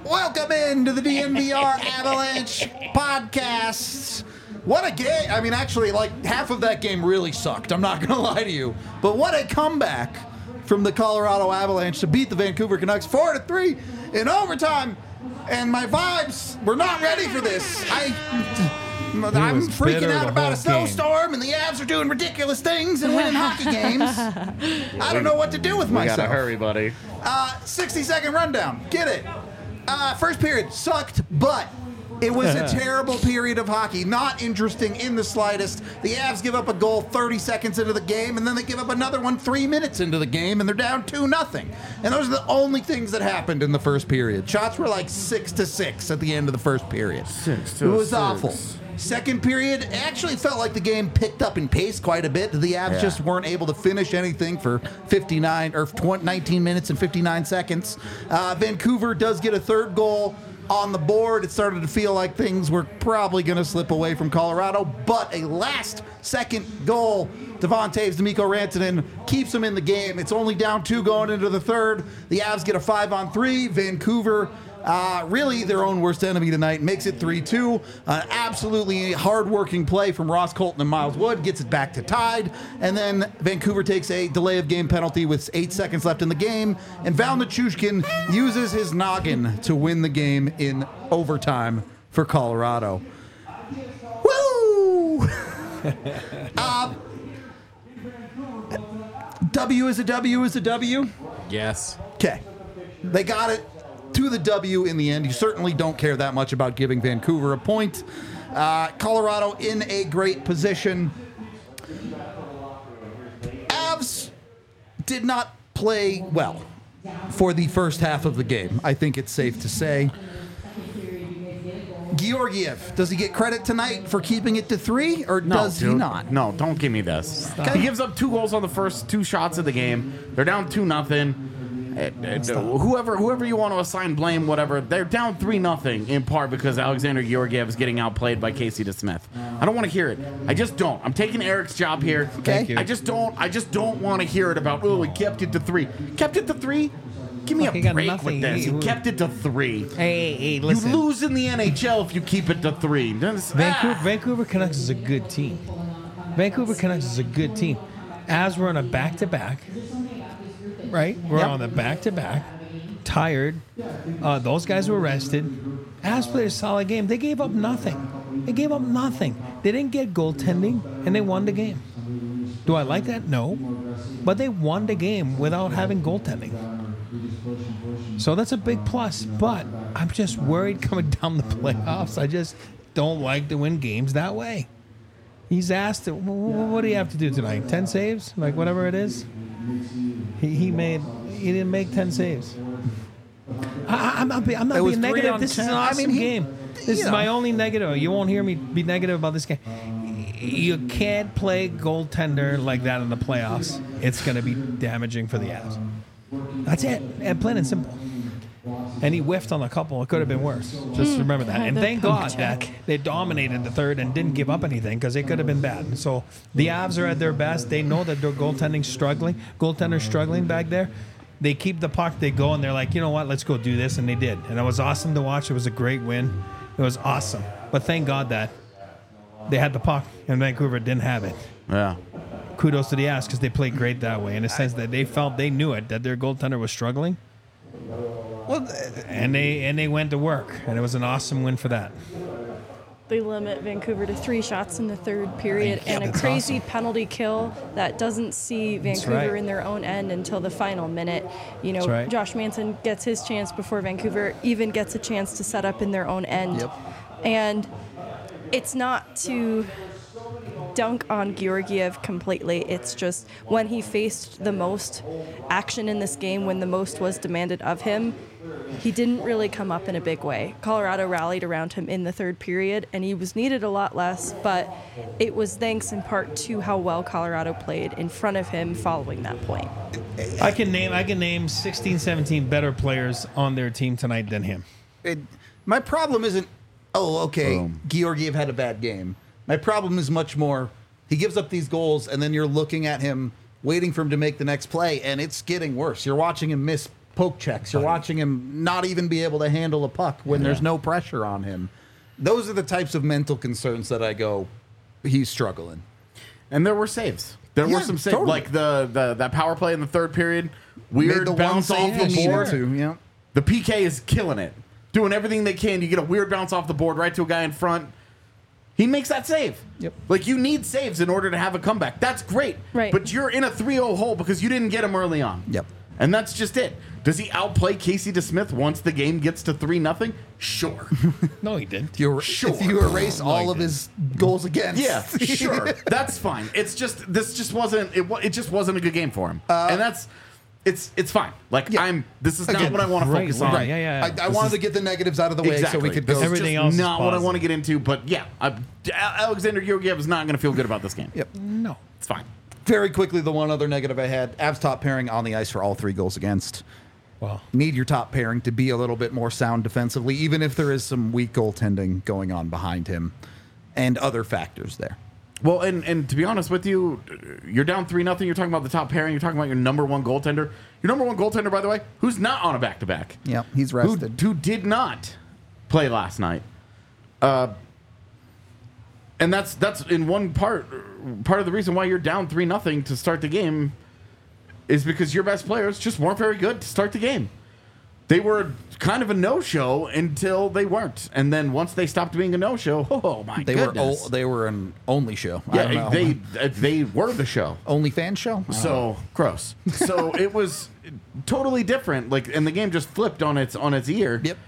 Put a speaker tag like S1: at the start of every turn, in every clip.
S1: Welcome into the DNVR Avalanche podcast. What a game. I mean, actually, like, half of that game really sucked. I'm not going to lie to you. But what a comeback from the Colorado Avalanche to beat the Vancouver Canucks 4-3 in overtime. And my vibes were not ready for this. I'm freaking out about a snowstorm, and the Avs are doing ridiculous things and winning hockey games. I don't know what to do with myself.
S2: We gotta hurry, buddy.
S1: 60-second rundown. Get it. First period sucked, but it was a terrible period of hockey. Not interesting in the slightest. The Avs give up a goal 30 seconds into the game, and then they give up another one 3 minutes into the game, and they're down 2-0. And those are the only things that happened in the first period. Shots were like 6-6 at the end of the first period. It was awful. Second period, it actually felt like the game picked up in pace quite a bit. The Avs just weren't able to finish anything for 19 minutes and 59 seconds. Vancouver does get a third goal on the board. It started to feel like things were probably going to slip away from Colorado, but a last-second goal, Devon Toews, Mikko Rantanen, keeps them in the game. It's only down 2 going into the third. The Avs get a 5-on-3. Vancouver, really their own worst enemy tonight, makes it 3-2. Absolutely hard-working play from Ross Colton and Miles Wood, gets it back to tied, and then Vancouver takes a delay of game penalty with 8 seconds left in the game, and Val Nichushkin uses his noggin to win the game in overtime for Colorado. Woo! W is a W is a W?
S2: Yes.
S1: Okay. They got it to the W in the end. You certainly don't care that much about giving Vancouver a point. Colorado in a great position. Avs did not play well for the first half of the game, I think it's safe to say. Georgiev, does he get credit tonight for keeping it to 3, or does he not?
S2: No, don't give me this.
S1: Okay.
S2: He gives up 2 goals on the first 2 shots of the game. They're down 2-0. Whoever you want to assign blame, whatever, they're down 3-0 in part because Alexander Georgiev is getting outplayed by Casey DeSmith. I don't want to hear it. I just don't. I'm taking Eric's job here.
S1: Okay.
S2: I just don't want to hear it about, he kept it to 3. Kept it to 3? Give me a break with this. He kept it to 3.
S3: Hey, listen.
S2: You lose in the NHL if you keep it to 3.
S3: Vancouver Canucks is a good team. Vancouver Canucks is a good team. As we're on a back-to-back, right? We're on the back-to-back. Tired. Those guys were rested. Avs played a solid game. They gave up nothing. They didn't get goaltending, and they won the game. Do I like that? No. But they won the game without having goaltending. So that's a big plus. But I'm just worried coming down the playoffs. I just don't like to win games that way. He's asked, what do you have to do tonight? 10 saves? Like whatever it is? He didn't make 10 saves. I'm not being negative. This is an awesome game. This is my only negative. You won't hear me be negative about this game. You can't play goaltender like that in the playoffs. It's going to be damaging for the Avs. That's it. And plain and simple. And he whiffed on a couple. It could have been worse. Just remember that. And thank God that they dominated the third and didn't give up anything because it could have been bad. So the Avs are at their best. They know that their goaltender's struggling back there. They keep the puck. They go, and they're like, you know what? Let's go do this. And they did. And it was awesome to watch. It was a great win. It was awesome. But thank God that they had the puck, and Vancouver didn't have it.
S2: Yeah.
S3: Kudos to the Avs because they played great that way in a sense that they knew it, that their goaltender was struggling. Well, and they went to work, and it was an awesome win for that.
S4: They limit Vancouver to 3 shots in the third period and a crazy penalty kill that doesn't see Vancouver in their own end until the final minute. You know, Josh Manson gets his chance before Vancouver even gets a chance to set up in their own end.
S1: Yep.
S4: And it's not to dunk on Georgiev completely. It's just when he faced the most action in this game, when the most was demanded of him, he didn't really come up in a big way. Colorado rallied around him in the third period, and he was needed a lot less, but it was thanks in part to how well Colorado played in front of him following that point.
S3: I can name 16, 17 better players on their team tonight than him.
S1: My problem isn't, Georgiev had a bad game. My problem is much more, he gives up these goals, and then you're looking at him, waiting for him to make the next play, and it's getting worse. You're watching him miss poke checks. You're watching him not even be able to handle a puck when there's no pressure on him. Those are the types of mental concerns that I go, he's struggling.
S2: And there were saves. There were some saves.
S1: Totally.
S2: Like that power play in the third period.
S1: Made
S2: Weird
S1: the one
S2: bounce
S1: save
S2: off the
S1: he needed
S2: board.
S1: to, yeah.
S2: The PK is killing it. Doing everything they can. You get a weird bounce off the board right to a guy in front. He makes that save.
S1: Yep.
S2: Like, you need saves in order to have a comeback. That's great.
S4: Right.
S2: But you're in a 3-0 hole because you didn't get him early on.
S1: Yep.
S2: And that's just it. Does he outplay Casey DeSmith once the game gets to 3-0? Sure.
S3: No, he didn't.
S1: If you erase all of his goals against.
S2: Yeah, sure. That's fine. It's just this just wasn't it just wasn't a good game for him. And that's it's fine. Like,
S1: Yeah.
S2: this is not
S1: Again,
S2: what I want to
S3: right,
S2: focus on.
S3: right, yeah.
S1: I wanted to get the negatives out of the way so we could go.
S2: This is
S3: Everything
S2: just
S3: else is
S2: not what I
S3: positive.
S2: want to get into, but yeah, Alexander Georgiev is not going to feel good about this game.
S1: Yep.
S3: No.
S2: It's fine.
S1: Very quickly, the one other negative I had, Avs top pairing on the ice for all 3 goals against.
S3: Well,
S1: Need your top pairing to be a little bit more sound defensively, even if there is some weak goaltending going on behind him and other factors there.
S2: Well, and to be honest with you, you're down 3-0. You're talking about the top pairing. You're talking about your number one goaltender. Your number one goaltender, by the way, who's not on a back-to-back.
S1: Yeah, he's rested.
S2: Who did not play last night. And that's in one part of the reason why you're down 3-0 to start the game is because your best players just weren't very good to start the game. They were kind of a no-show until they weren't, and then once they stopped being a no-show, oh my goodness,
S1: They were an only show. I don't
S2: yeah,
S1: know.
S2: they were the show.
S1: Only fan show.
S2: So gross. So it was totally different. Like, and the game just flipped on its ear.
S1: Yep.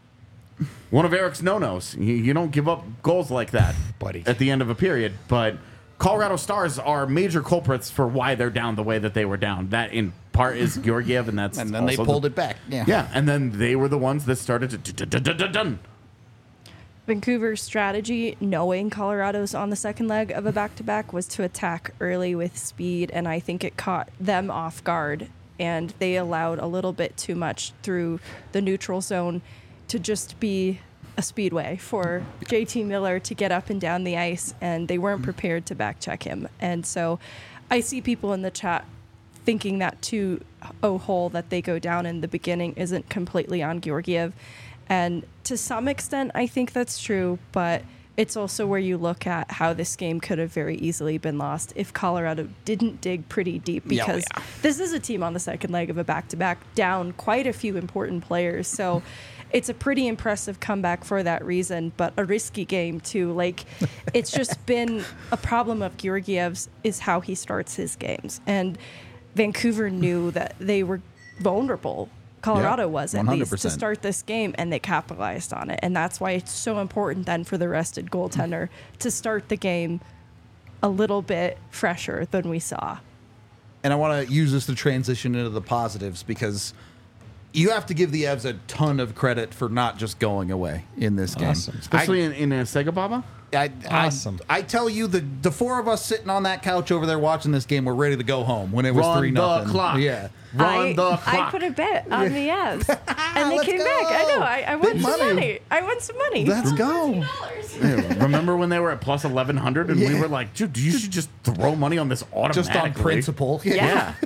S2: One of Eric's no-nos. You don't give up goals like that,
S3: Buddy.
S2: at the end of a period. But Colorado Stars are major culprits for why they're down the way that they were down. That in part is Georgiev, and that's
S1: And then they
S2: also
S1: pulled it back. Yeah.
S2: Yeah, and then they were the ones that started to done.
S4: Vancouver's strategy, knowing Colorado's on the second leg of a back-to-back, was to attack early with speed, and I think it caught them off guard, and they allowed a little bit too much through the neutral zone to just be a speedway for JT Miller to get up and down the ice, and they weren't prepared to back-check him. And so I see people in the chat thinking that 2-0 hole that they go down in the beginning isn't completely on Georgiev. And to some extent, I think that's true, but it's also where you look at how this game could have very easily been lost if Colorado didn't dig pretty deep, because this is a team on the second leg of a back-to-back down quite a few important players. So it's a pretty impressive comeback for that reason, but a risky game too. Like, it's just been a problem of Georgiev's is how he starts his games. And Vancouver knew that they were vulnerable. Colorado was, at least, to
S1: 100%.
S4: start this game, and they capitalized on it. And that's why it's so important then for the rested goaltender to start the game a little bit fresher than we saw.
S1: And I want to use this to transition into the positives, because you have to give the Avs a ton of credit for not just going away in this game.
S3: Awesome.
S2: Especially in a Sega Baba.
S3: Awesome.
S1: I tell you, the 4 of us sitting on that couch over there watching this game were ready to go home when it was
S2: Run
S1: 3-0.
S2: the clock.
S1: Yeah.
S2: Run the clock.
S4: I put a bet on the Avs, and they
S1: Let's
S4: came
S1: go.
S4: back. I know. I won
S1: Big
S4: some
S1: money.
S4: money. I won some money.
S1: Let's go.
S2: Yeah, remember when they were at plus 1,100 and we were like, dude, you should just throw money on this automatically.
S1: Just on principle.
S2: Yeah.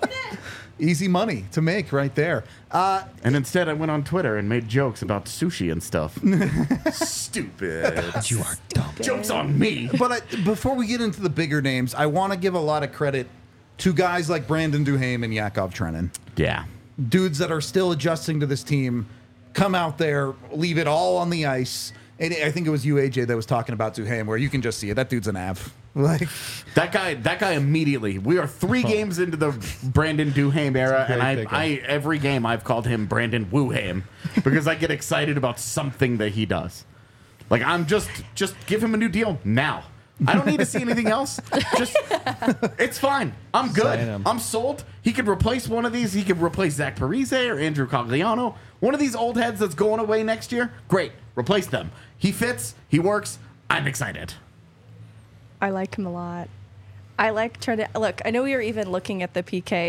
S1: Easy money to make right there.
S2: And instead, I went on Twitter and made jokes about sushi and stuff. Stupid.
S3: you are dumb.
S2: Jokes on me.
S1: But before we get into the bigger names, I want to give a lot of credit to guys like Brandon Duhaime and Yakov Trenin.
S2: Yeah.
S1: Dudes that are still adjusting to this team, come out there, leave it all on the ice. And I think it was you, AJ, that was talking about Duhaime, where you can just see it. That dude's an Av. Like,
S2: That guy immediately. We are 3 games into the Brandon Duhaime era, and I every game I've called him Brandon Woohaime because I get excited about something that he does. Like, I'm just give him a new deal now. I don't need to see anything else. Just, it's fine. I'm good.
S3: Sign him.
S2: I'm sold. He could replace one of these. He could replace Zach Parise or Andrew Cogliano. One of these old heads that's going away next year. Great. Replace them. He fits. He works. I'm excited.
S4: I like him a lot. I like trying to look. I know we were even looking at the PK.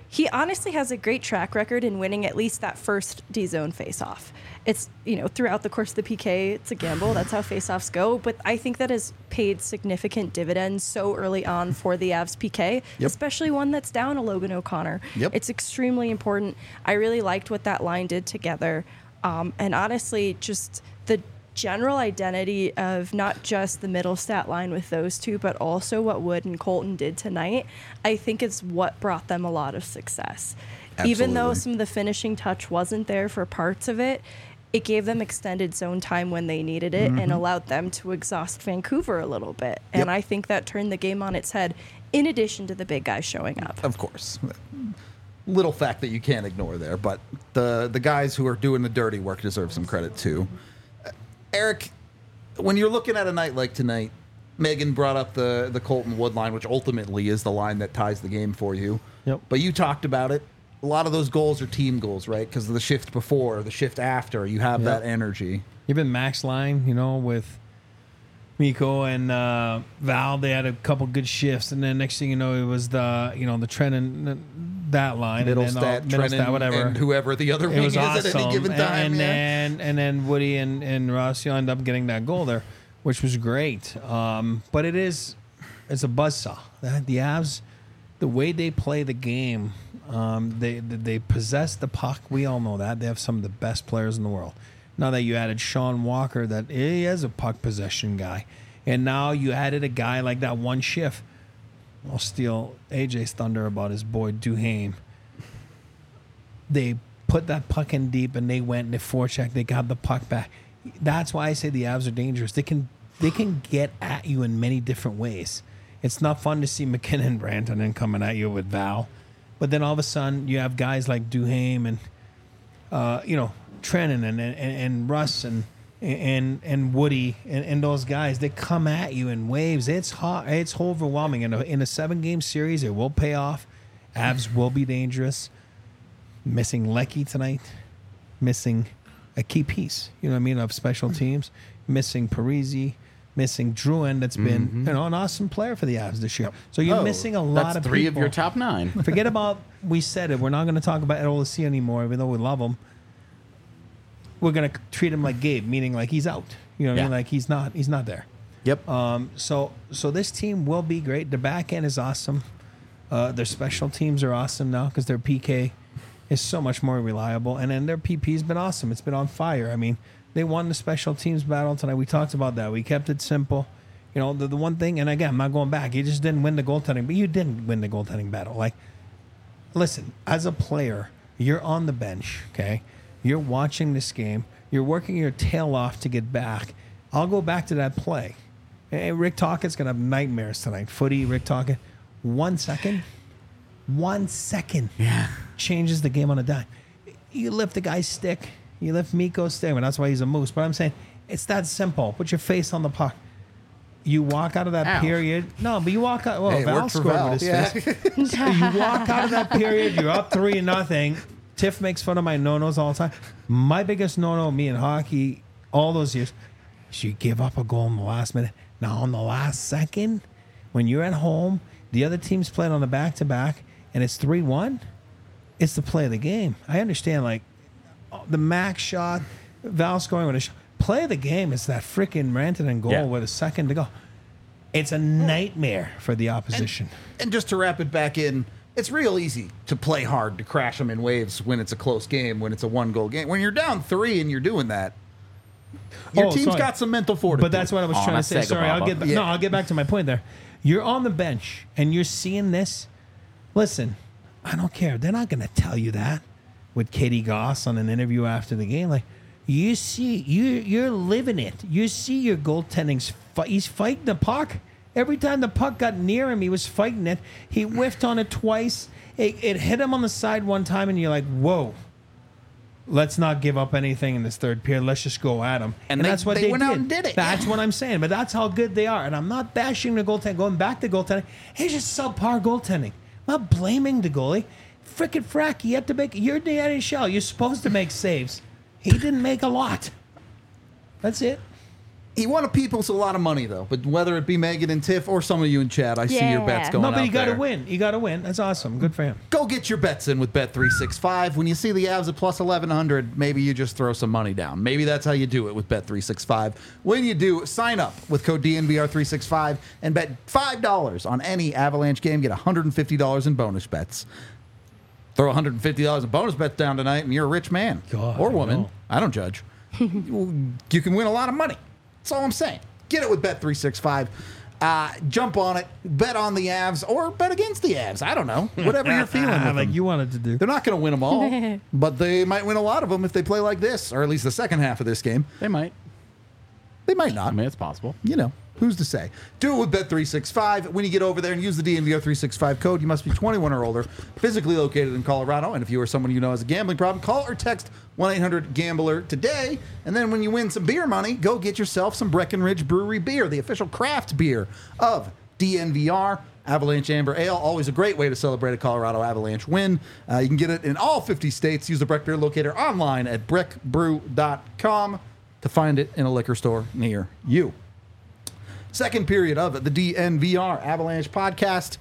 S4: he honestly has a great track record in winning at least that first D-zone face-off. It's, throughout the course of the PK, it's a gamble. That's how face-offs go. But I think that has paid significant dividends so early on for the Avs PK, especially one that's down a Logan O'Connor. It's extremely important. I really liked what that line did together. And honestly, just the general identity of not just the middle stat line with those two, but also what Wood and Colton did tonight, I think is what brought them a lot of success. Absolutely. Even though some of the finishing touch wasn't there for parts of it, it gave them extended zone time when they needed it and allowed them to exhaust Vancouver a little bit. And I think that turned the game on its head, in addition to the big guys showing up.
S1: Of course. Little fact that you can't ignore there, but the guys who are doing the dirty work deserve some credit too. Eric, when you're looking at a night like tonight, Megan brought up the Colton Wood line, which ultimately is the line that ties the game for you. But you talked about it. A lot of those goals are team goals, right? Because of the shift before, the shift after, you have that energy.
S3: Even Max line, with Mikko and Val, they had a couple good shifts, and then next thing you know, it was the Trennan that line,
S1: Middlestat,
S3: whatever,
S1: and whoever the other wing is
S3: awesome.
S1: at any given time.
S3: And then Woody and Ross end up getting that goal there, which was great. But it's a buzzsaw. The Avs, the way they play the game, they possess the puck. We all know that. They have some of the best players in the world. Now that you added Sean Walker, that he is a puck possession guy, and now you added a guy like that one shift. I'll steal AJ's thunder about his boy Duhaime. They put that puck in deep, and they went and they forechecked. They got the puck back. That's why I say the Avs are dangerous. They can get at you in many different ways. It's not fun to see McKinnon and Rantanen coming at you with Val, but then all of a sudden you have guys like Duhaime and Trennan and Russ and Woody and those guys. They come at you in waves. It's hot. It's overwhelming. In a 7-game series, it will pay off. Avs will be dangerous. Missing Leckie tonight. Missing a key piece, of special teams. Missing Parise. Missing Drouin, that's been an awesome player for the Avs this year. So you're missing a lot of people.
S2: That's 3 of your top 9.
S3: Forget about, we said it, we're not going to talk about Olysee anymore, even though we love him. We're going to treat him like Gabe, meaning like he's out. You know what I mean? Like he's not there.
S2: Yep.
S3: So this team will be great. Their back end is awesome. Their special teams are awesome now because their PK is so much more reliable. And then their PP's been awesome. It's been on fire. I mean, they won the special teams battle tonight. We talked about that. We kept it simple. The one thing, and again, I'm not going back. You just didn't win the goaltending, but you didn't win the goaltending battle. Like, listen, as a player, you're on the bench, okay? You're watching this game. You're working your tail off to get back. I'll go back to that play. Hey, Rick Tocchet's going to have nightmares tonight. Footy, Rick Tocchet. 1 second changes the game on a dime. You lift the guy's stick. You lift Mikko's stick. And that's why he's a moose. But I'm saying it's that simple. Put your face on the puck. You walk out of that period. No, but you walk out. Well, Val scored with his face. You walk out of that period. You're up 3-0. Tiff makes fun of my no-nos all the time. My biggest no-no, me in hockey, all those years, is you give up a goal in the last minute. Now, on the last second, when you're at home, the other team's playing on the back-to-back, and it's 3-1, it's the play of the game. I understand, like, the max shot, Val scoring with a shot. Play of the game is that freaking Rantanen goal with a second to go. It's a nightmare for the opposition.
S1: And just to wrap it back in, it's real easy to play hard, to crash them in waves when it's a close game, when it's a 1-goal game. When you're down 3 and you're doing that, your team's got some mental fortitude.
S3: But that's what I was trying to say. Sorry, I'll get back to my point there. You're on the bench and you're seeing this. Listen, I don't care. They're not going to tell you that with Katie Goss on an interview after the game. Like, you see, you're living it. You see your goaltending's he's fighting the puck. Every time the puck got near him, he was fighting it. He whiffed on it twice. It hit him on the side one time, and you're like, whoa. Let's not give up anything in this third period. Let's just go at him. And that's what they
S1: went out and did it.
S3: That's what I'm saying. But that's how good they are. And I'm not bashing the goaltending. Going back to goaltending, it's just subpar goaltending. I'm not blaming the goalie. Frickin' frack, you have to make... You're the NHL. You're supposed to make saves. He didn't make a lot. That's it.
S1: He won a people's a lot of money, though. But whether it be Megan and Tiff or some of you in chat, I see your bets going
S3: No, but
S1: out
S3: you got to
S1: there.
S3: win. You got to win. That's awesome. Good for him.
S1: Go get your bets in with Bet365. When you see the Avs at plus 1,100, maybe you just throw some money down. Maybe that's how you do it with Bet365. When you do, sign up with code DNVR365 and bet $5 on any Avalanche game. Get $150 in bonus bets. Throw $150 in bonus bets down tonight, and you're a rich man
S3: God,
S1: or woman.
S3: no.
S1: I don't judge. You can win a lot of money. That's all I'm saying. Get it with Bet365. Jump on it. Bet on the Avs or bet against the Avs. I don't know. Whatever you're feeling with
S3: Like
S1: them.
S3: you wanted to do.
S1: They're not going to win them all, but they might win a lot of them if they play like this, or at least the second half of this game.
S2: They might.
S1: They might not.
S2: I mean, it's possible.
S1: You know, who's to say? Do it with Bet365. When you get over there and use the DNVR365 code, you must be 21 or older, physically located in Colorado. And if you or someone you know has a gambling problem, call or text 1-800-GAMBLER today. And then when you win some beer money, go get yourself some Breckenridge Brewery beer, the official craft beer of DNVR. Avalanche Amber Ale, always a great way to celebrate a Colorado Avalanche win. You can get it in all 50 states. Use the Breck Beer Locator online at breckbrew.com to find it in a liquor store near you. Second period of the DNVR Avalanche podcast.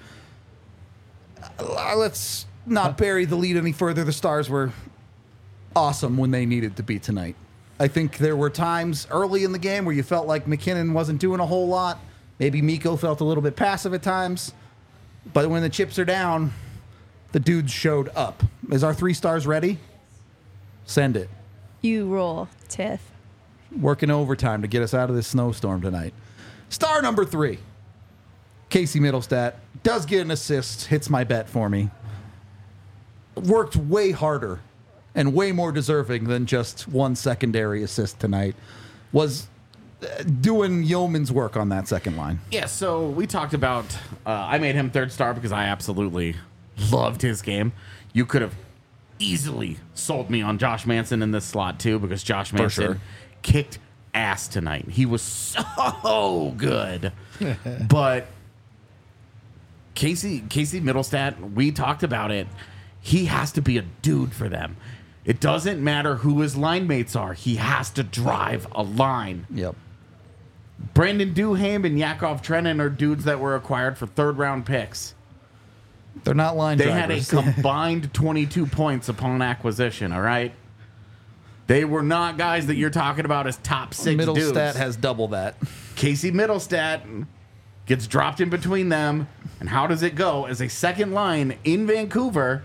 S1: Let's not bury the lead any further. The Stars were awesome when they needed to be tonight. I think there were times early in the game where you felt like McKinnon wasn't doing a whole lot. Maybe Mikko felt a little bit passive at times. But when the chips are down, the dudes showed up. Is our 3 stars ready? Send it.
S4: You roll, Tiff.
S1: Working overtime to get us out of this snowstorm tonight. Star number 3, Casey Middlestat, does get an assist, hits my bet for me. Worked way harder and way more deserving than just one secondary assist tonight. Was doing yeoman's work on that second line.
S2: Yeah, so we talked about, I made him 3rd star because I absolutely loved his game. You could have easily sold me on Josh Manson in this slot too, because Josh Manson
S1: sure.
S2: kicked ass tonight. He was so good. But Casey Middlestat, we talked about it. He has to be a dude for them. It doesn't matter who his line mates are. He has to drive a line.
S1: Yep.
S2: Brandon Duhaime and Yakov Trenin are dudes that were acquired for 3rd-round picks.
S1: They're not line
S2: They
S1: drivers.
S2: had a combined 22 points upon acquisition, all right? They were not guys that you're talking about as top 6
S1: Middlestat
S2: dudes.
S1: has double that.
S2: Casey Middlestat gets dropped in between them. And how does it go? As a second line in Vancouver,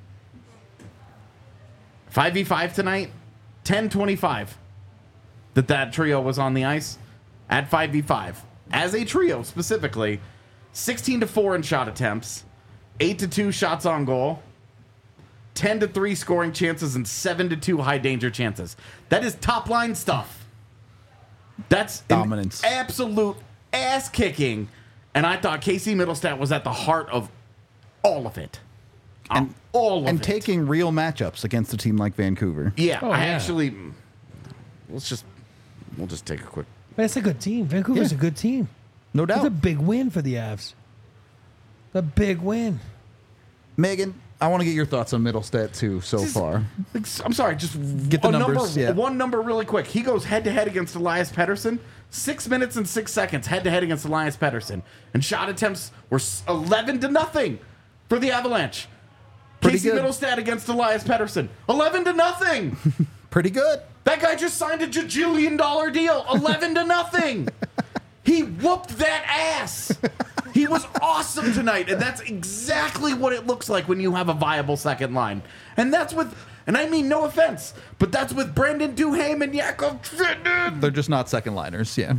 S2: 5v5 tonight, 10-25 that trio was on the ice at 5v5. As a trio specifically, 16-4 in shot attempts, 8-2 shots on goal, 10-3 scoring chances, and 7-2 high danger chances. That is top line stuff. That's
S1: Dominance.
S2: Absolute ass kicking. And I thought Casey Middlestat was at the heart of all of it. All of
S1: And
S2: it.
S1: taking real matchups against a team like Vancouver.
S2: Yeah,
S3: Oh,
S2: I
S3: yeah.
S2: actually. We'll just take a quick.
S3: But it's a good team. Vancouver's
S1: Yeah.
S3: a good team.
S1: No
S3: It's a
S1: doubt.
S3: big win for the Avs. A big win.
S1: Megan, I want to get your thoughts on Middlestat too so far.
S2: I'm sorry, just
S1: Get the
S2: a
S1: numbers, yeah.
S2: One number really quick. He goes head to head against Elias Pettersson. 6 minutes and 6 seconds head to head against Elias Pettersson, and shot attempts were 11-0 for the Avalanche.
S1: Pretty
S2: Casey
S1: good.
S2: Middlestat against Elias Pettersson, 11-0.
S1: Pretty good.
S2: That guy just signed a $1 deal, 11-0. He whooped that ass. He was awesome tonight, and that's exactly what it looks like when you have a viable second line. And that's with, and I mean no offense, but that's with Brandon Duhaime and Yakov Trenin.
S1: They're just not second liners, yeah.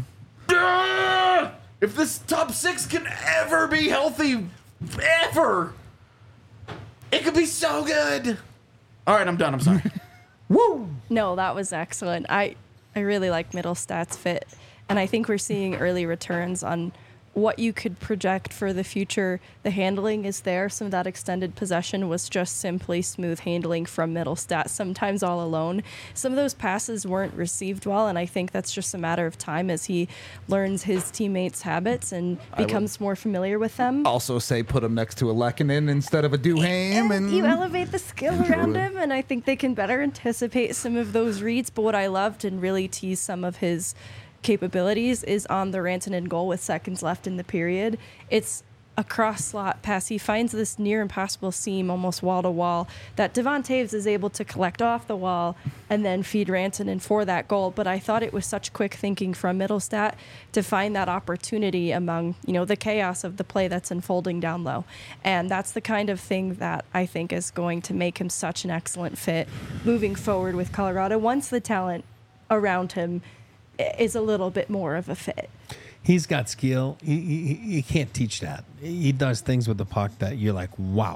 S2: If this top 6 can ever be healthy, ever, it could be so good. All right, I'm done. I'm sorry.
S1: Woo!
S4: No, that was excellent. I really like Middlestat's fit, and I think we're seeing early returns on what you could project for the future. The handling is there. Some of that extended possession was just simply smooth handling from Middlestat, sometimes all alone. Some of those passes weren't received well, and I think that's just a matter of time as he learns his teammates' habits and becomes more familiar with them.
S1: Also say put him next to a Lehkonen instead of a Duhaime. And
S4: You elevate the skill around him, and I think they can better anticipate some of those reads. But what I loved and really teased some of his capabilities is on the Rantanen goal with seconds left in the period. It's a cross slot pass. He finds this near impossible seam almost wall to wall that Devon Toews is able to collect off the wall and then feed Rantanen for that goal. But I thought it was such quick thinking from Mittelstadt to find that opportunity among, the chaos of the play that's unfolding down low. And that's the kind of thing that I think is going to make him such an excellent fit moving forward with Colorado once the talent around him is a little bit more of a fit.
S3: He's got skill. You can't teach that. He does things with the puck that you're like, wow.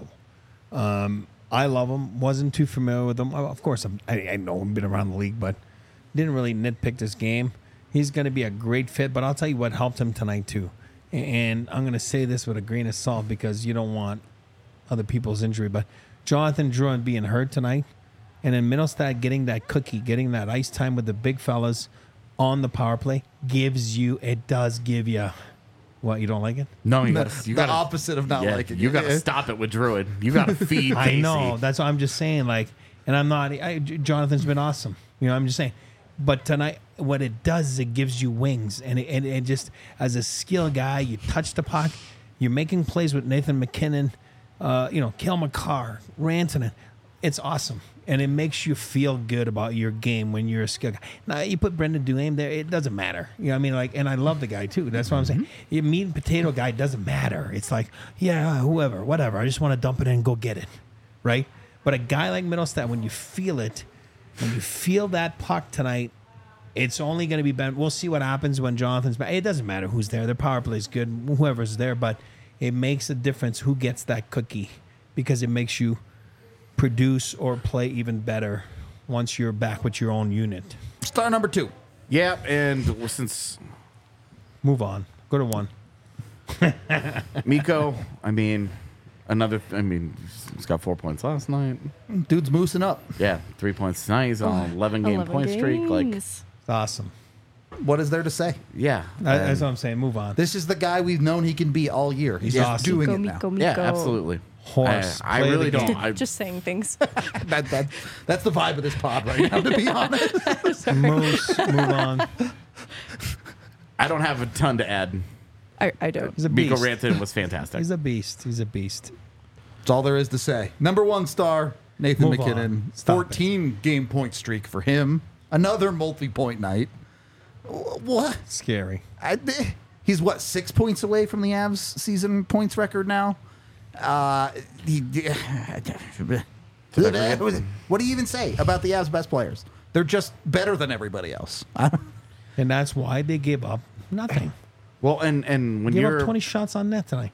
S3: I love him. Wasn't too familiar with him. Of course, I know him, been around the league, but didn't really nitpick this game. He's going to be a great fit, but I'll tell you what helped him tonight too. And I'm going to say this with a grain of salt because you don't want other people's injury, but Jonathan Drouin being hurt tonight, and then Mittelstadt getting that cookie, getting that ice time with the big fellas on the power play does give you what, you don't like it?
S2: No, you
S1: The
S2: got
S1: opposite of not liking it.
S2: You got to stop it with Druid. You got to feed Casey.
S3: I know. That's what I'm just saying. Like, and I'm not. Jonathan's been awesome. I'm just saying. But tonight, what it does is it gives you wings, and it just as a skill guy, you touch the puck, you're making plays with Nathan McKinnon, Cale Makar, Rantanen. It's awesome. And it makes you feel good about your game when you're a skill guy. Now, you put Brendan Duhaime there, it doesn't matter. You know what I mean? Like, and I love the guy, too. That's what I'm saying. Your meat and potato guy doesn't matter. It's like, yeah, whoever, whatever. I just want to dump it in and go get it, right? But a guy like Mittelstadt, when you feel it, when you feel that puck tonight, it's only going to be better. We'll see what happens when Jonathan's back. It doesn't matter who's there. Their power play is good, whoever's there. But it makes a difference who gets that cookie because it makes you produce or play even better once you're back with your own unit.
S1: Star number 2.
S2: Yeah, and since
S3: Move on. Go to 1.
S2: Mikko, he's got 4 points last night.
S1: Dude's moosing up.
S2: Yeah, 3 points tonight. He's on an 11-game point streak. Like,
S3: It's awesome.
S1: What is there to say?
S2: yeah.
S3: That's what I'm saying. Move on.
S1: This is the guy we've known he can be all year. He's just
S3: awesome.
S1: doing
S4: Go,
S1: it now.
S4: Mikko,
S2: Yeah,
S4: Mikko.
S2: absolutely.
S3: Horse.
S2: I
S3: Play
S2: really
S3: the game.
S2: don't.
S4: Just saying things.
S1: That's the vibe of this pod right now, to be honest.
S3: Moose. Move on.
S2: I don't have a ton to add.
S4: I don't.
S3: He's a
S2: Mikko
S3: beast.
S2: Rantanen was fantastic.
S3: He's a beast. He's a beast.
S1: That's all there is to say. Number 1 star, Nathan
S3: Move
S1: McKinnon.
S3: on. Stop it.
S1: 14-game point streak for him. Another multi-point night. What?
S3: Scary.
S1: He's 6 points away from the Avs season points record now? What do you even say about the Avs' best players? They're just better than everybody else.
S3: And that's why they gave up nothing.
S2: Well, and when
S3: Gave
S2: you're
S3: up 20 shots on net tonight.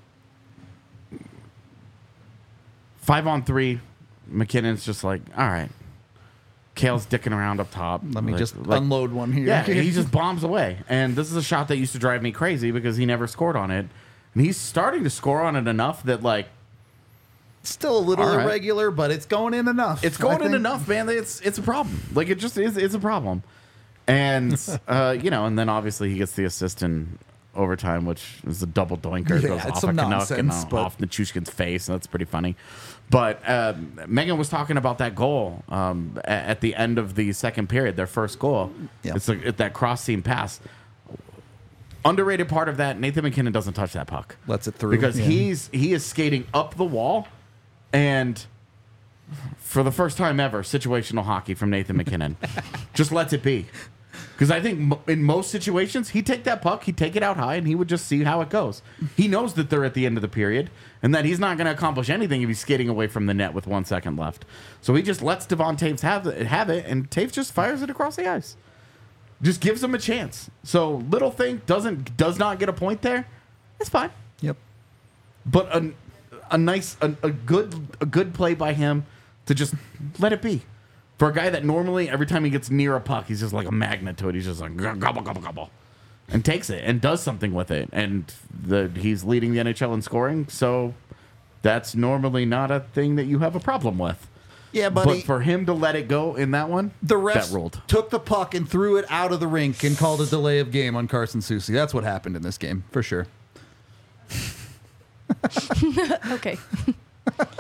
S2: 5-on-3, McKinnon's just like, all right. Kale's dicking around up top.
S1: Let me just unload one here.
S2: Yeah, he just bombs away. And this is a shot that used to drive me crazy because he never scored on it. And he's starting to score on it enough that, like,
S1: still a little
S2: all right.
S1: irregular, but it's going in enough.
S2: It's going in enough, man. It's a problem. Like, it just is. It's a problem. And, and then obviously he gets the assist in overtime, which is a double doinker.
S1: Yeah,
S2: Goes
S1: it's
S2: off
S1: some
S2: a Canuck and
S1: nonsense, but-
S2: off Nichushkin's face. And that's pretty funny. But Megan was talking about that goal at the end of the second period, their first goal.
S1: Yeah.
S2: It's like that cross-seam pass. Underrated part of that, Nathan McKinnon doesn't touch that puck.
S1: Lets it through.
S2: Because
S1: Yeah.
S2: he is skating up the wall, and for the first time ever, situational hockey from Nathan McKinnon. Just lets it be. Because I think in most situations, he'd take that puck, he'd take it out high, and he would just see how it goes. He knows that they're at the end of the period, and that he's not going to accomplish anything if he's skating away from the net with 1 second left. So he just lets Devon Toews have it, and Toews just fires it across the ice. Just gives him a chance. So little thing does not get a point there. It's fine.
S1: Yep.
S2: But a good play by him to just let it be. For a guy that normally every time he gets near a puck, he's just like a magnet to it. He's just like gobble gobble gobble, and takes it and does something with it. And he's leading the NHL in scoring. So that's normally not a thing that you have a problem with.
S1: Yeah, buddy.
S2: But for him to let it go in that one,
S1: The refs
S2: that ruled.
S1: took the puck and threw it out of the rink and called a delay of game on Carson Soucy. That's what happened in this game, for sure.
S4: Okay.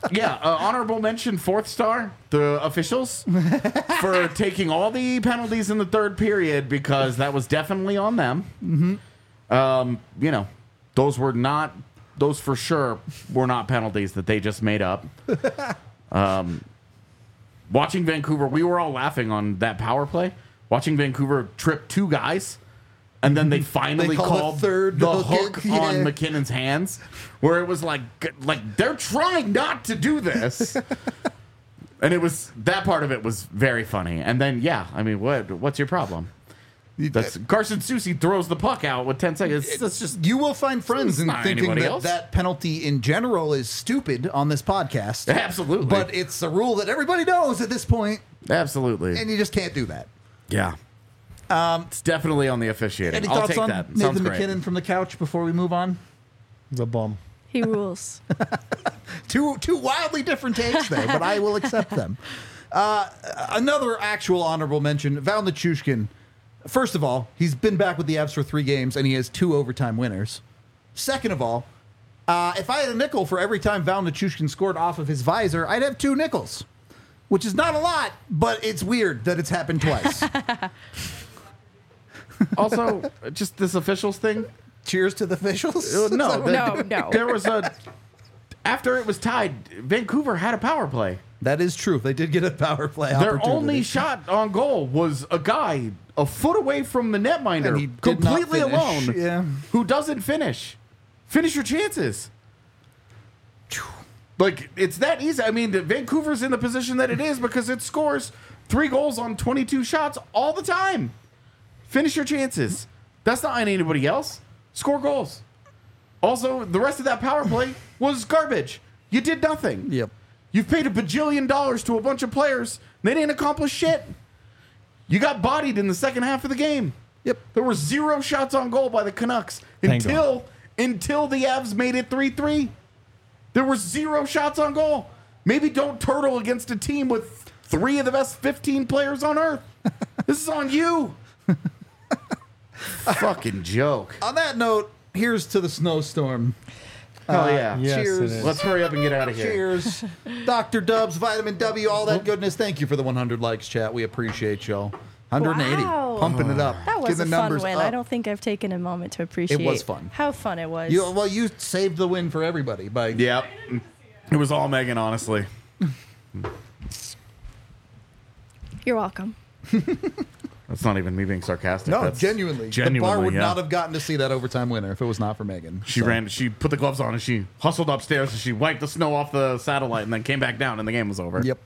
S2: Yeah, honorable mention, fourth star, the officials, for taking all the penalties in the third period because that was definitely on them. You know, those for sure were not penalties that they just made up. Watching Vancouver, we were all laughing on that power play. Watching Vancouver trip 2 guys. And then they finally called the hook on McKinnon's hands, where it was like they're trying not to do this. And it was, that part of it was very funny. And then, yeah, I mean, what's your problem? Carson Soucy throws the puck out with 10 seconds. That's just,
S1: you will find friends in thinking that penalty in general is stupid on this podcast.
S2: Absolutely.
S1: But it's a rule that everybody knows at this point.
S2: Absolutely.
S1: And you just can't do that.
S2: Yeah. It's definitely on the officiating.
S1: Any
S2: I'll
S1: thoughts
S2: take
S1: on
S2: that.
S1: Nathan
S2: Sounds great.
S1: McKinnon from the couch before we move on?
S3: The bum.
S4: He rules.
S1: Two wildly different takes there, but I will accept them. Another actual honorable mention, Val Nichushkin. First of all, he's been back with the Avs for 3 games, and he has 2 overtime winners. Second of all, if I had a nickel for every time Val Nichushkin scored off of his visor, I'd have 2 nickels, which is not a lot, but it's weird that it's happened twice.
S2: Also, just this officials thing.
S1: Cheers to the officials.
S2: No.
S4: No.
S2: There was after it was tied, Vancouver had a power play.
S1: That is true. They did get a power play
S2: Their
S1: opportunity.
S2: only shot on goal was a guy a foot away from the
S1: And he
S2: netminder,
S1: did not
S2: completely
S1: finish.
S2: alone,
S1: Yeah.
S2: who doesn't finish. Finish your chances. Like, it's that easy. I mean, Vancouver's in the position that it is because it scores 3 goals on 22 shots all the time. Finish your chances. That's not on anybody else. Score goals. Also, the rest of that power play was garbage. You did nothing.
S1: Yep.
S2: You've paid $1 bajillion to a bunch of players. They didn't accomplish shit. You got bodied in the second half of the game.
S1: Yep.
S2: There were 0 shots on goal by the Canucks until the Avs made it 3-3. There were 0 shots on goal. Maybe don't turtle against a team with 3 of the best 15 players on earth. This is on you. Fucking joke.
S1: On that note, here's to the snowstorm.
S2: Hell yeah.
S3: Yes,
S1: Cheers.
S3: it is.
S2: Let's hurry up and get out of here.
S1: Cheers. Dr. Dubs, Vitamin W, all that goodness. Thank you for the 100 likes, chat. We appreciate y'all. 180.
S4: Wow.
S1: Pumping it up.
S4: That was
S1: Get the
S4: a fun
S1: numbers
S4: win.
S1: up.
S4: I don't think I've taken a moment to appreciate
S1: was fun.
S4: how fun it was.
S1: You saved the win for everybody by
S2: Yep. It was all Megan, honestly.
S4: You're welcome.
S2: That's not even me being sarcastic.
S1: No,
S2: That's
S1: genuinely. The bar would not have gotten to see that overtime winner if it was not for Megan.
S2: She put the gloves on and she hustled upstairs and she wiped the snow off the satellite and then came back down and the game was over.
S1: Yep.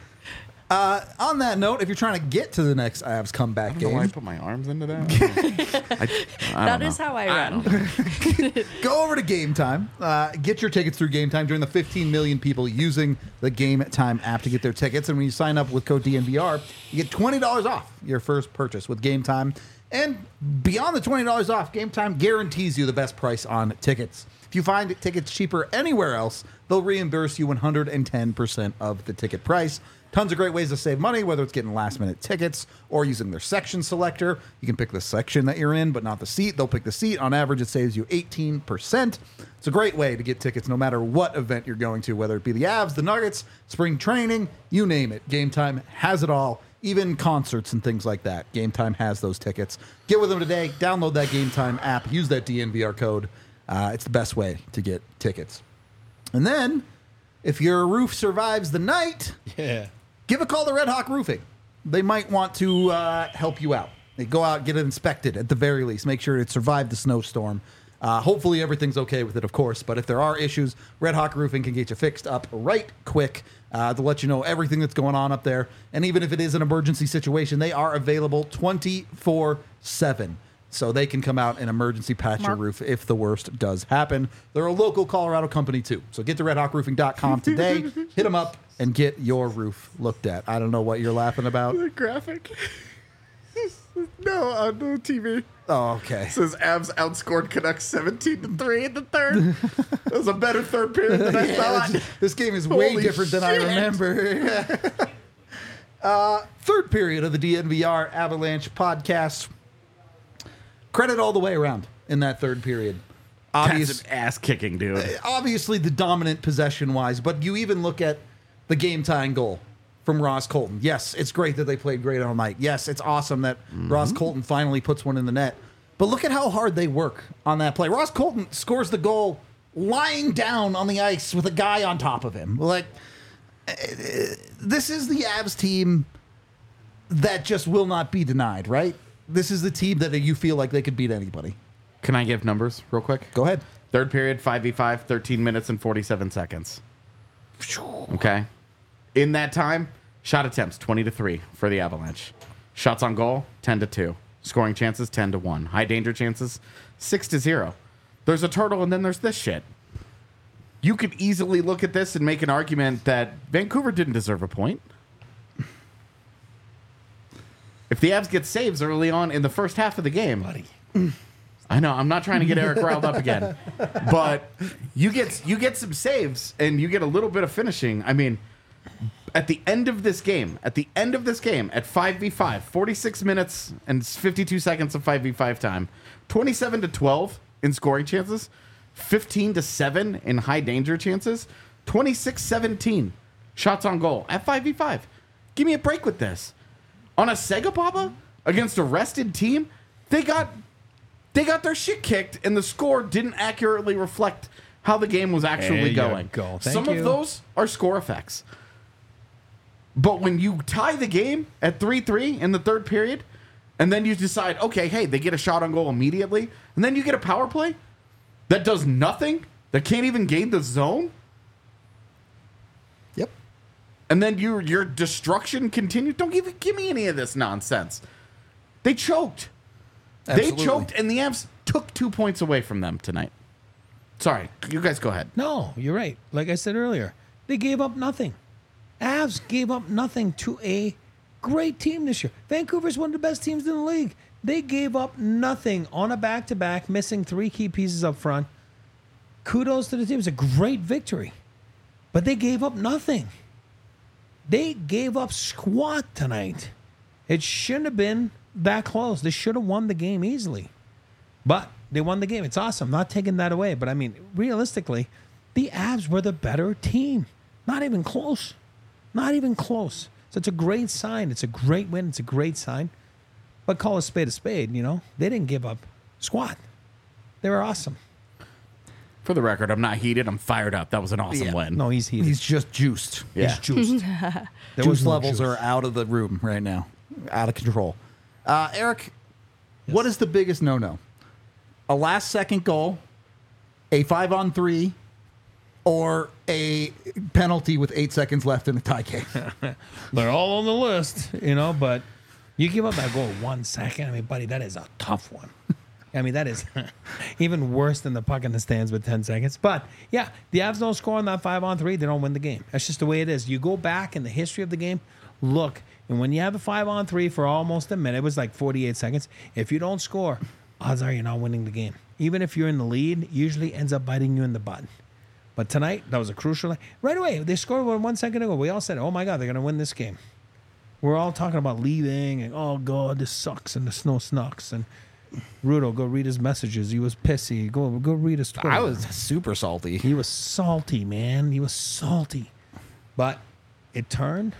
S1: On that note, if you're trying to get to the next Avs comeback
S2: I don't know why I
S1: game,
S2: put my arms into that.
S4: That is how I run.
S1: go over to Game Time. Get your tickets through Game Time. Join the 15 million people using the Game Time app to get their tickets. And when you sign up with code DNVR, you get $20 off your first purchase with Game Time. And beyond the $20 off, Game Time guarantees you the best price on tickets. If you find tickets cheaper anywhere else, they'll reimburse you 110% of the ticket price. Tons of great ways to save money, whether it's getting last-minute tickets or using their section selector. You can pick the section that you're in, but not the seat. They'll pick the seat. On average, it saves you 18%. It's a great way to get tickets no matter what event you're going to, whether it be the Avs, the Nuggets, spring training, you name it. Game Time has it all, even concerts and things like that. Game Time has those tickets. Get with them today. Download that Game Time app. Use that DNVR code. It's the best way to get tickets. And then, if your roof survives the night...
S3: Yeah.
S1: Give a call to Red Hawk Roofing. They might want to help you out. They go out, get it inspected at the very least. Make sure it survived the snowstorm. Hopefully everything's okay with it, of course. But if there are issues, Red Hawk Roofing can get you fixed up right quick to let you know everything that's going on up there. And even if it is an emergency situation, they are available 24/7. So they can come out and emergency patch your roof if the worst does happen. They're a local Colorado company, too. So get to redhawkroofing.com today. Hit them up and get your roof looked at. I don't know what you're laughing about.
S2: The graphic. No, on the TV.
S1: Oh, okay.
S2: It says Avs outscored Canucks 17-3 in the third. That was a better third period than I thought.
S1: This game is way
S2: Holy
S1: different than I
S2: shit.
S1: remember. Third period of the DNVR Avalanche podcast. Credit all the way around in that third period. obvious
S2: That's an ass kicking, dude.
S1: obviously the dominant possession-wise, but you even look at the game-tying goal from Ross Colton. Yes, it's great that they played great all night. Yes, it's awesome that Ross Colton finally puts one in the net. But look at how hard they work on that play. Ross Colton scores the goal lying down on the ice with a guy on top of him. Like, this is the Avs team that just will not be denied, right? This is the team that you feel like they could beat anybody.
S2: Can I give numbers real quick?
S1: Go ahead.
S2: Third period, 5v5, 13 minutes and 47 seconds. Okay. In that time, shot attempts 20-3 for the Avalanche. Shots on goal 10-2. Scoring chances 10-1. High danger chances 6-0. There's a turtle and then there's this shit. You could easily look at this and make an argument that Vancouver didn't deserve a point. If the Avs get saves early on in the first half of the game,
S3: Buddy.
S2: I know, I'm not trying to get Eric riled up again, but you get some saves and you get a little bit of finishing. I mean, at the end of this game, at 5v5, 46 minutes and 52 seconds of 5v5 time, 27-12 in scoring chances, 15-7 in high danger chances, 26-17 shots on goal at 5v5. Give me a break with this. On a Sega Papa against a rested team, they got their shit kicked, and the score didn't accurately reflect how the game was actually going. Some of those are score effects. But when you tie the game at 3-3 in the third period, and then you decide, okay, hey, they get a shot on goal immediately, and then you get a power play that does nothing, that can't even gain the zone,
S1: Yep.
S2: and then your destruction continues. Don't give me any of this nonsense. They choked.
S1: Absolutely.
S2: They choked, and the Avs took 2 points away from them tonight. Sorry, you guys go ahead.
S3: No, you're right. Like I said earlier, they gave up nothing. Avs gave up nothing to a great team this year. Vancouver's one of the best teams in the league. They gave up nothing on a back-to-back, missing 3 key pieces up front. Kudos to the team. It's a great victory. But they gave up nothing. They gave up squat tonight. It shouldn't have been that close. They should have won the game easily. But they won the game. It's awesome. Not taking that away. But, I mean, realistically, the Avs were the better team. Not even close. Not even close. So it's a great sign. It's a great win. It's a great sign. But call a spade, you know? They didn't give up squat. They were awesome.
S2: For the record, I'm not heated. I'm fired up. That was an awesome win.
S3: No, he's heated.
S1: He's just juiced.
S2: Yeah.
S3: He's juiced. There was
S1: Juice
S3: no
S1: levels
S3: juice.
S1: are out of the room right now, out of control. Eric, what is the biggest no-no? A last-second goal, a 5-on-3, or a penalty with 8 seconds left in the tie game?
S3: They're all on the list, you know, but you give up that goal 1 second. I mean, buddy, that is a tough one. I mean, that is even worse than the puck in the stands with 10 seconds. But, yeah, the Avs don't score on that 5-on-3. They don't win the game. That's just the way it is. You go back in the history of the game, look, and when you have a 5-on-3 for almost a minute, it was like 48 seconds. If you don't score, odds are you're not winning the game. Even if you're in the lead, it usually ends up biting you in the butt. But tonight, that was a crucial. Right away, they scored 1 second ago. We all said, oh, my God, they're going to win this game. We're all talking about leaving and, oh, God, this sucks and the snow snucks. And Rudo, go read his messages. He was pissy. Go read his Twitter.
S1: I was super salty.
S3: He was salty, man. He was salty. But it turned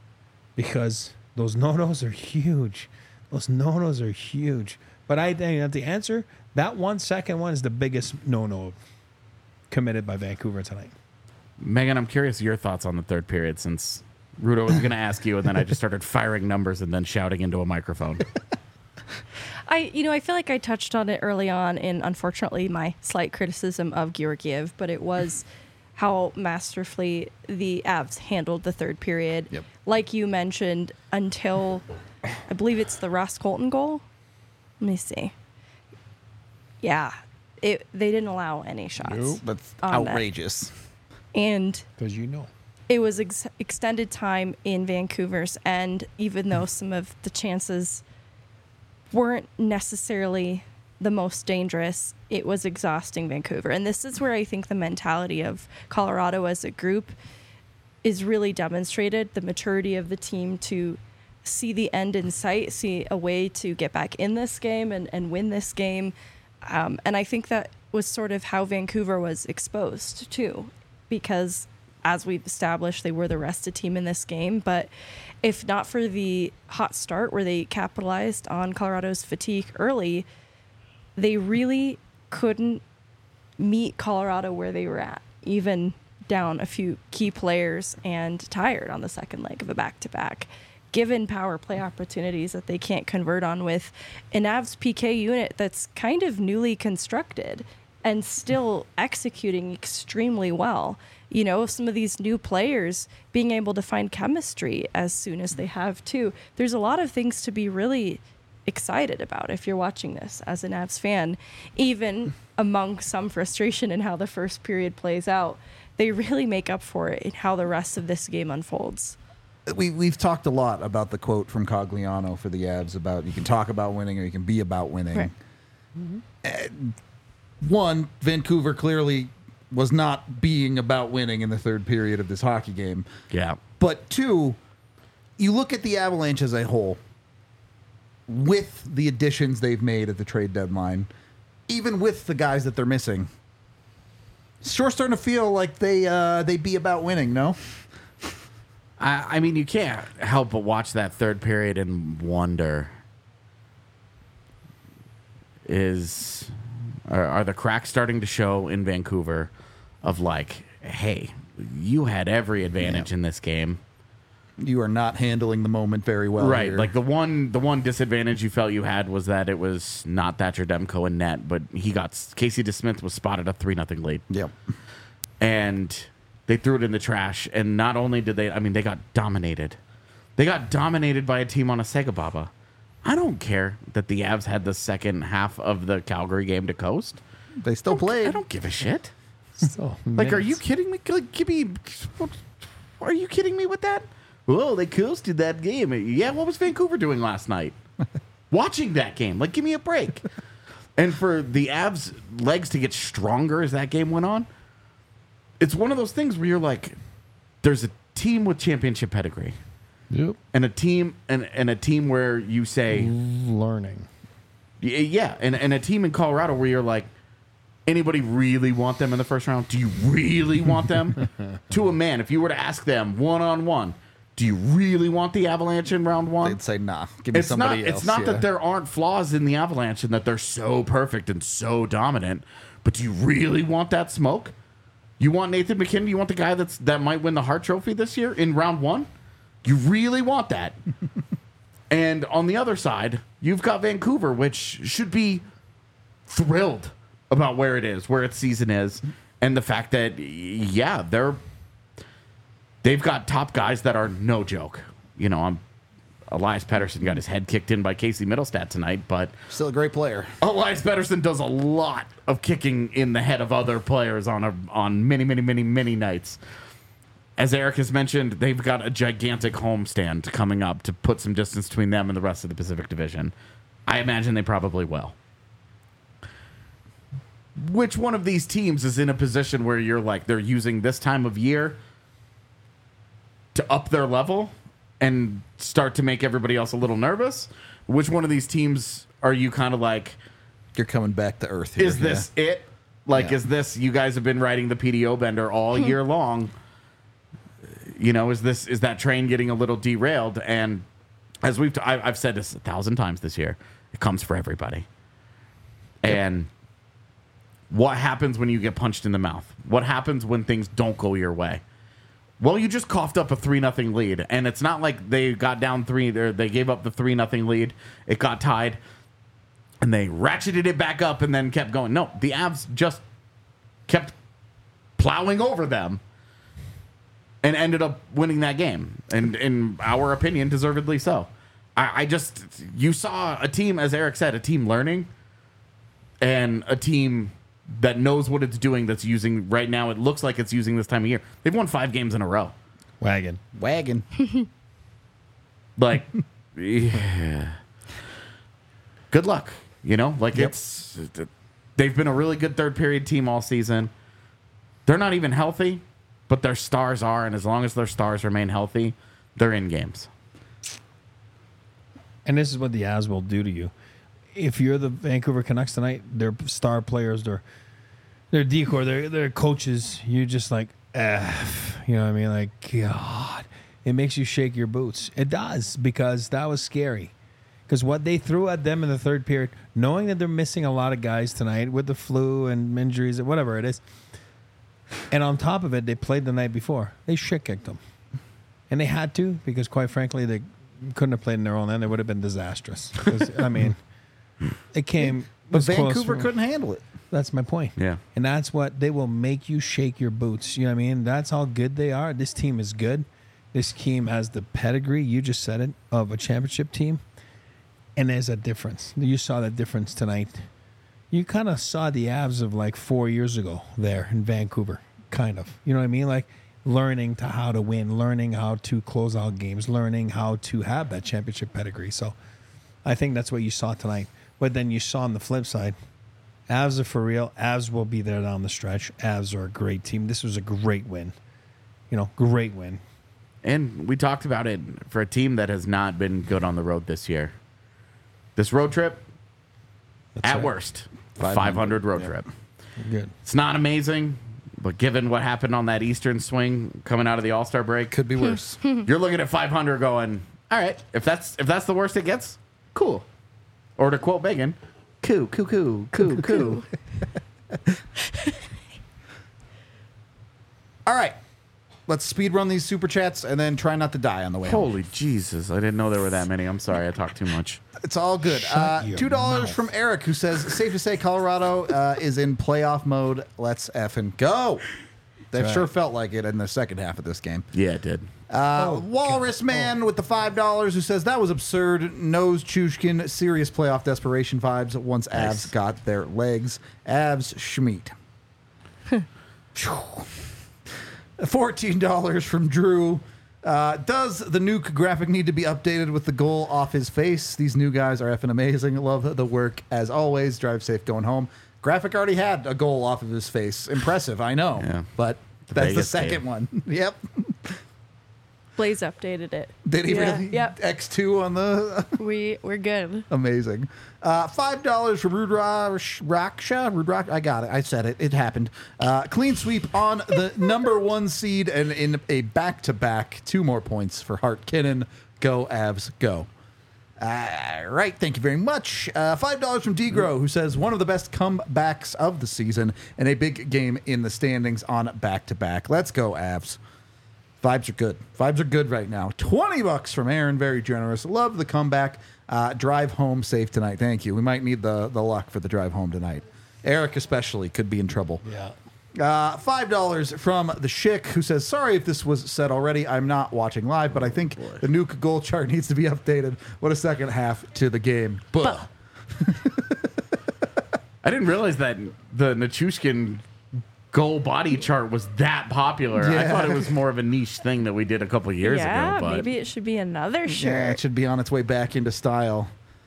S3: because those no-nos are huge. Those no-nos are huge. But I think that the answer, that 1 second one is the biggest no-no committed by Vancouver tonight.
S2: Megan, I'm curious your thoughts on the third period, since Rudo was going to ask you, and then I just started firing numbers and then shouting into a microphone.
S4: I feel like I touched on it early on in, unfortunately, my slight criticism of Georgiev, but it was how masterfully the Avs handled the third period.
S1: Yep.
S4: Like you mentioned, until I believe it's the Ross Colton goal. Let me see. Yeah, they didn't allow any shots.
S1: That's
S4: on that.
S1: outrageous.
S4: And
S3: Because you know.
S4: it was extended time in Vancouver's end, even though some of the chances weren't necessarily the most dangerous. It was exhausting Vancouver. And this is where I think the mentality of Colorado as a group is really demonstrated, the maturity of the team to see the end in sight, see a way to get back in this game and win this game. And I think that was sort of how Vancouver was exposed too, because as we've established, they were the rested team in this game. But if not for the hot start where they capitalized on Colorado's fatigue early, they really couldn't meet Colorado where they were at, even down a few key players and tired on the second leg of a back-to-back, given power play opportunities that they can't convert on with an Avs PK unit that's kind of newly constructed and still executing extremely well. You know, some of these new players being able to find chemistry as soon as they have too. There's a lot of things to be really excited about if you're watching this as an Avs fan, even among some frustration in how the first period plays out. They really make up for it in how the rest of this game unfolds.
S1: We've talked a lot about the quote from Cogliano for the Avs about you can talk about winning or you can be about winning.
S4: Right.
S1: One, Vancouver clearly was not being about winning in the third period of this hockey game.
S2: Yeah.
S1: But two, you look at the Avalanche as a whole, with the additions they've made at the trade deadline, even with the guys that they're missing, it's sure starting to feel like they be about winning, no?
S2: I mean, you can't help but watch that third period and wonder, are the cracks starting to show in Vancouver of like, hey, you had every advantage in this game.
S1: You are not handling the moment very well.
S2: Right.
S1: Here.
S2: Like the one disadvantage you felt you had was that it was not Thatcher Demko in net, but Casey DeSmith was spotted a 3-0 lead.
S1: Yep.
S2: And they threw it in the trash. And not only did they got dominated. They got dominated by a team on a Sega Baba. I don't care that the Avs had the second half of the Calgary game to coast.
S1: They still played.
S2: I don't give a shit.
S3: So,
S2: Like, are you kidding me? Like, are you kidding me with that? Oh, they coasted that game. Yeah, what was Vancouver doing last night? Watching that game. Like, give me a break. And for the Avs' legs to get stronger as that game went on, it's one of those things where you're like, there's a team with championship pedigree.
S3: Yep.
S2: And a team and a team where you say
S3: Learning.
S2: yeah, and a team in Colorado where you're like, anybody really want them in the first round? Do you really want them? To a man, if you were to ask them one-on-one, do you really want the Avalanche in round one?
S1: They'd say, nah, give me somebody else.
S2: It's not that there aren't flaws in the Avalanche and that they're so perfect and so dominant, but do you really want that smoke? You want Nathan McKinnon? You want the guy that might win the Hart Trophy this year in round one? You really want that? And on the other side, you've got Vancouver, which should be thrilled about where it is, where its season is, and the fact that, yeah, they've got top guys that are no joke. You know, Elias Pettersson got his head kicked in by Casey Middlestat tonight, but
S1: Still a great player.
S2: Elias Pettersson does a lot of kicking in the head of other players on many, many, many, many nights. As Eric has mentioned, they've got a gigantic homestand coming up to put some distance between them and the rest of the Pacific Division. I imagine they probably will. Which one of these teams is in a position where you're like, they're using this time of year to up their level and start to make everybody else a little nervous? Which one of these teams are you kind of like,
S1: You're coming back to earth here.
S2: is this it? Like,
S1: Yeah.
S2: is this, you guys have been riding the PDO bender all year long. You know, is that train getting a little derailed? And as I've said this 1,000 times this year, it comes for everybody. Yep. And what happens when you get punched in the mouth? What happens when things don't go your way? Well, you just coughed up a 3-0 lead, and it's not like they got down 3, or they gave up the 3-0 lead. It got tied, and they ratcheted it back up and then kept going. No, the Avs just kept plowing over them and ended up winning that game, and in our opinion, deservedly so. You saw a team, as Eric said, a team learning, and a team that knows what it's doing, that's using right now. It looks like it's using this time of year. They've won 5 games in a row.
S3: Wagon.
S2: Like, yeah. Good luck. You know, like they've been a really good third period team all season. They're not even healthy, but their stars are, and as long as their stars remain healthy, they're in games.
S3: And this is what the Avs will do to you. if you're the Vancouver Canucks tonight, their star players, their decor, their coaches, you're just like, F. You know what I mean? Like, God. It makes you shake your boots. It does, because that was scary. Because what they threw at them in the third period, knowing that they're missing a lot of guys tonight with the flu and injuries, whatever it is, and on top of it, they played the night before. They shit kicked them. And they had to, because quite frankly, they couldn't have played in their own end. It would have been disastrous. I mean, it came.
S1: But Vancouver couldn't handle it.
S3: That's my point.
S2: Yeah.
S3: And that's what they will make you shake your boots. You know what I mean? That's how good they are. This team is good. This team has the pedigree, you just said it, of a championship team. And there's a difference. You saw the difference tonight. You kind of saw the Avs of like 4 years ago there in Vancouver, kind of. You know what I mean? Like learning to how to win, learning how to close out games, learning how to have that championship pedigree. So I think that's what you saw tonight. But then you saw on the flip side, Avs are for real. Avs will be there down the stretch. Avs are a great team. This was a great win. Great win.
S2: And we talked about it for a team that has not been good on the road this year. This road trip, at worst, 500 road trip.
S3: Good.
S2: It's not amazing, but given what happened on that Eastern swing coming out of the All-Star break,
S1: Could be worse.
S2: you're looking at 500 going, all right, if that's the worst it gets, cool. Or to quote Megan, coo.
S1: All right. Let's speed run these super chats and then try not to die on the way home.
S2: Holy Jesus, I didn't know there were that many. I'm sorry, I talked too much.
S1: It's all good.
S3: Shut your
S1: $2
S3: mouth.
S1: from Eric, who says, safe to say Colorado is in playoff mode. Let's effing go. They've
S3: That's
S1: sure
S3: right.
S1: felt like it in the second half of this game.
S2: Yeah, it did.
S1: Walrus Man with the $5 who says, that was absurd. Nose Chushkin, serious playoff desperation vibes once Avs got their legs. Avs Schmeat. $14 from Drew. Does the nuke graphic need to be updated with the goal off his face? These new guys are effing amazing. Love the work as always. Drive safe going home. Graphic already had a goal off of his face. Impressive, I know.
S2: Yeah.
S1: But that's the
S2: Vegas
S1: second
S2: game.
S1: one. Yep.
S4: Blaze updated it.
S1: Did he
S4: Yeah,
S1: really?
S4: yep.
S1: X2 on the...
S4: We're good.
S1: Amazing. $5 from Rudraksha. I got it. I said it. It happened. Clean sweep on the number 1 seed and in a back-to-back. 2 more points for Hart Kinnon. Go, Avs, go. Right. Thank you very much. $5 from Degro, who says, one of the best comebacks of the season and a big game in the standings on back-to-back. Let's go, Avs. Vibes are good. Vibes are good right now. $20 from Aaron, very generous. Love the comeback. Drive home safe tonight. Thank you. We might need the luck for the drive home tonight. Eric especially could be in trouble.
S3: Yeah.
S1: $5 from the Schick, who says, sorry if this was said already. I'm not watching live, but I think the nuke goal chart needs to be updated. What a second half to the game. Buh.
S2: I didn't realize that the Nichushkin goal body chart was that popular. I
S1: Yeah.
S2: thought it was more of a niche thing that we did a couple years
S4: Yeah,
S2: ago. But
S4: maybe it should be another shirt.
S1: Yeah, it should be on its way back into style.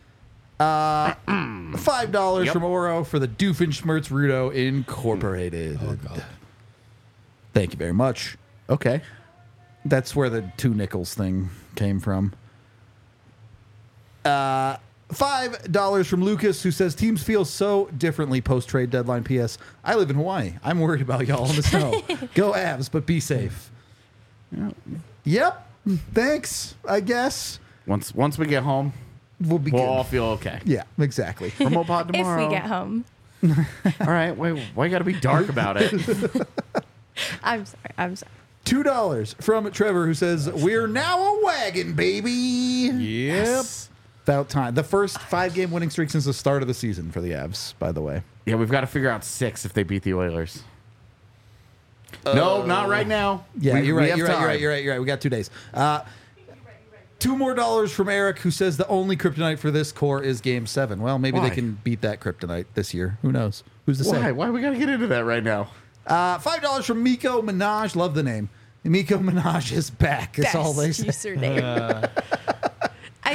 S1: $5
S2: Yep.
S1: from Oro for the Doofenshmirtz Rudo Incorporated.
S3: Oh, God.
S1: Thank you very much.
S2: okay.
S1: That's where the 2 nickels thing came from. $5 from Lucas, who says teams feel so differently post-trade deadline. P.S. I live in Hawaii. I'm worried about y'all in the snow. Go Avs, but be safe. Yep. Thanks, I guess.
S2: Once we get home,
S1: We'll be
S2: we'll
S1: good.
S2: all feel okay.
S1: Yeah, exactly.
S2: Remote pod
S4: If
S2: tomorrow.
S4: we get home.
S2: All right. Wait, why you got to be dark about it?
S4: I'm sorry.
S1: $2 from Trevor, who says, we're now a wagon, baby.
S3: Yep.
S1: About time. The first 5-game winning streak since the start of the season for the Avs, by the way.
S2: Yeah, we've got to figure out 6 if they beat the Oilers. No, not right now.
S1: Yeah,
S2: We
S1: you're right.
S2: have
S1: You're right.
S2: time.
S1: You're right. We got 2 days. $2 more from Eric, who says the only kryptonite for this core is Game 7. Well, maybe
S2: Why?
S1: they can beat that kryptonite this year. Who knows? Who's to
S2: Why?
S1: say?
S2: Why we got to get into that right now?
S1: $5 from Miko Minaj. Love the name. Miko Minaj is back. That's all they say.
S4: Best user name. I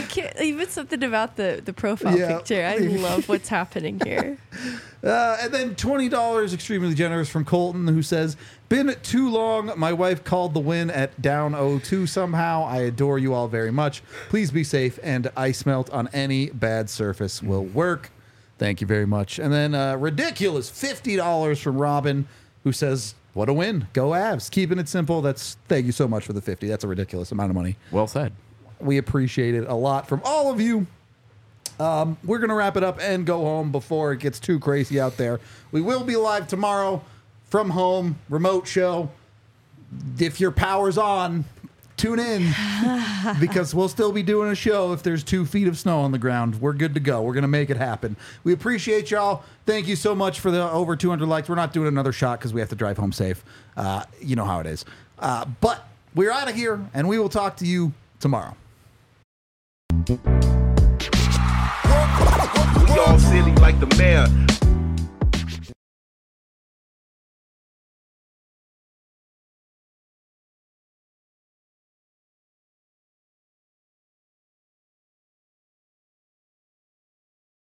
S4: Even something about the profile picture. I love what's happening here.
S1: And then $20 extremely generous from Colton, who says, been too long. My wife called the win at down 0-2 somehow. I adore you all very much. Please be safe, and ice melt on any bad surface will work. Thank you very much. And then ridiculous $50 from Robin, who says, what a win. Go Avs. Keeping it simple. Thank you so much for the 50. That's a ridiculous amount of money.
S2: Well said.
S1: We appreciate it a lot from all of you. We're going to wrap it up and go home before it gets too crazy out there. We will be live tomorrow from home, remote show. If your power's on, tune in because we'll still be doing a show if there's 2 feet of snow on the ground. We're good to go. We're going to make it happen. We appreciate y'all. Thank you so much for the over 200 likes. We're not doing another shot because we have to drive home safe. You know how it is. But we're out of here, and we will talk to you tomorrow.
S5: We all silly like the mayor.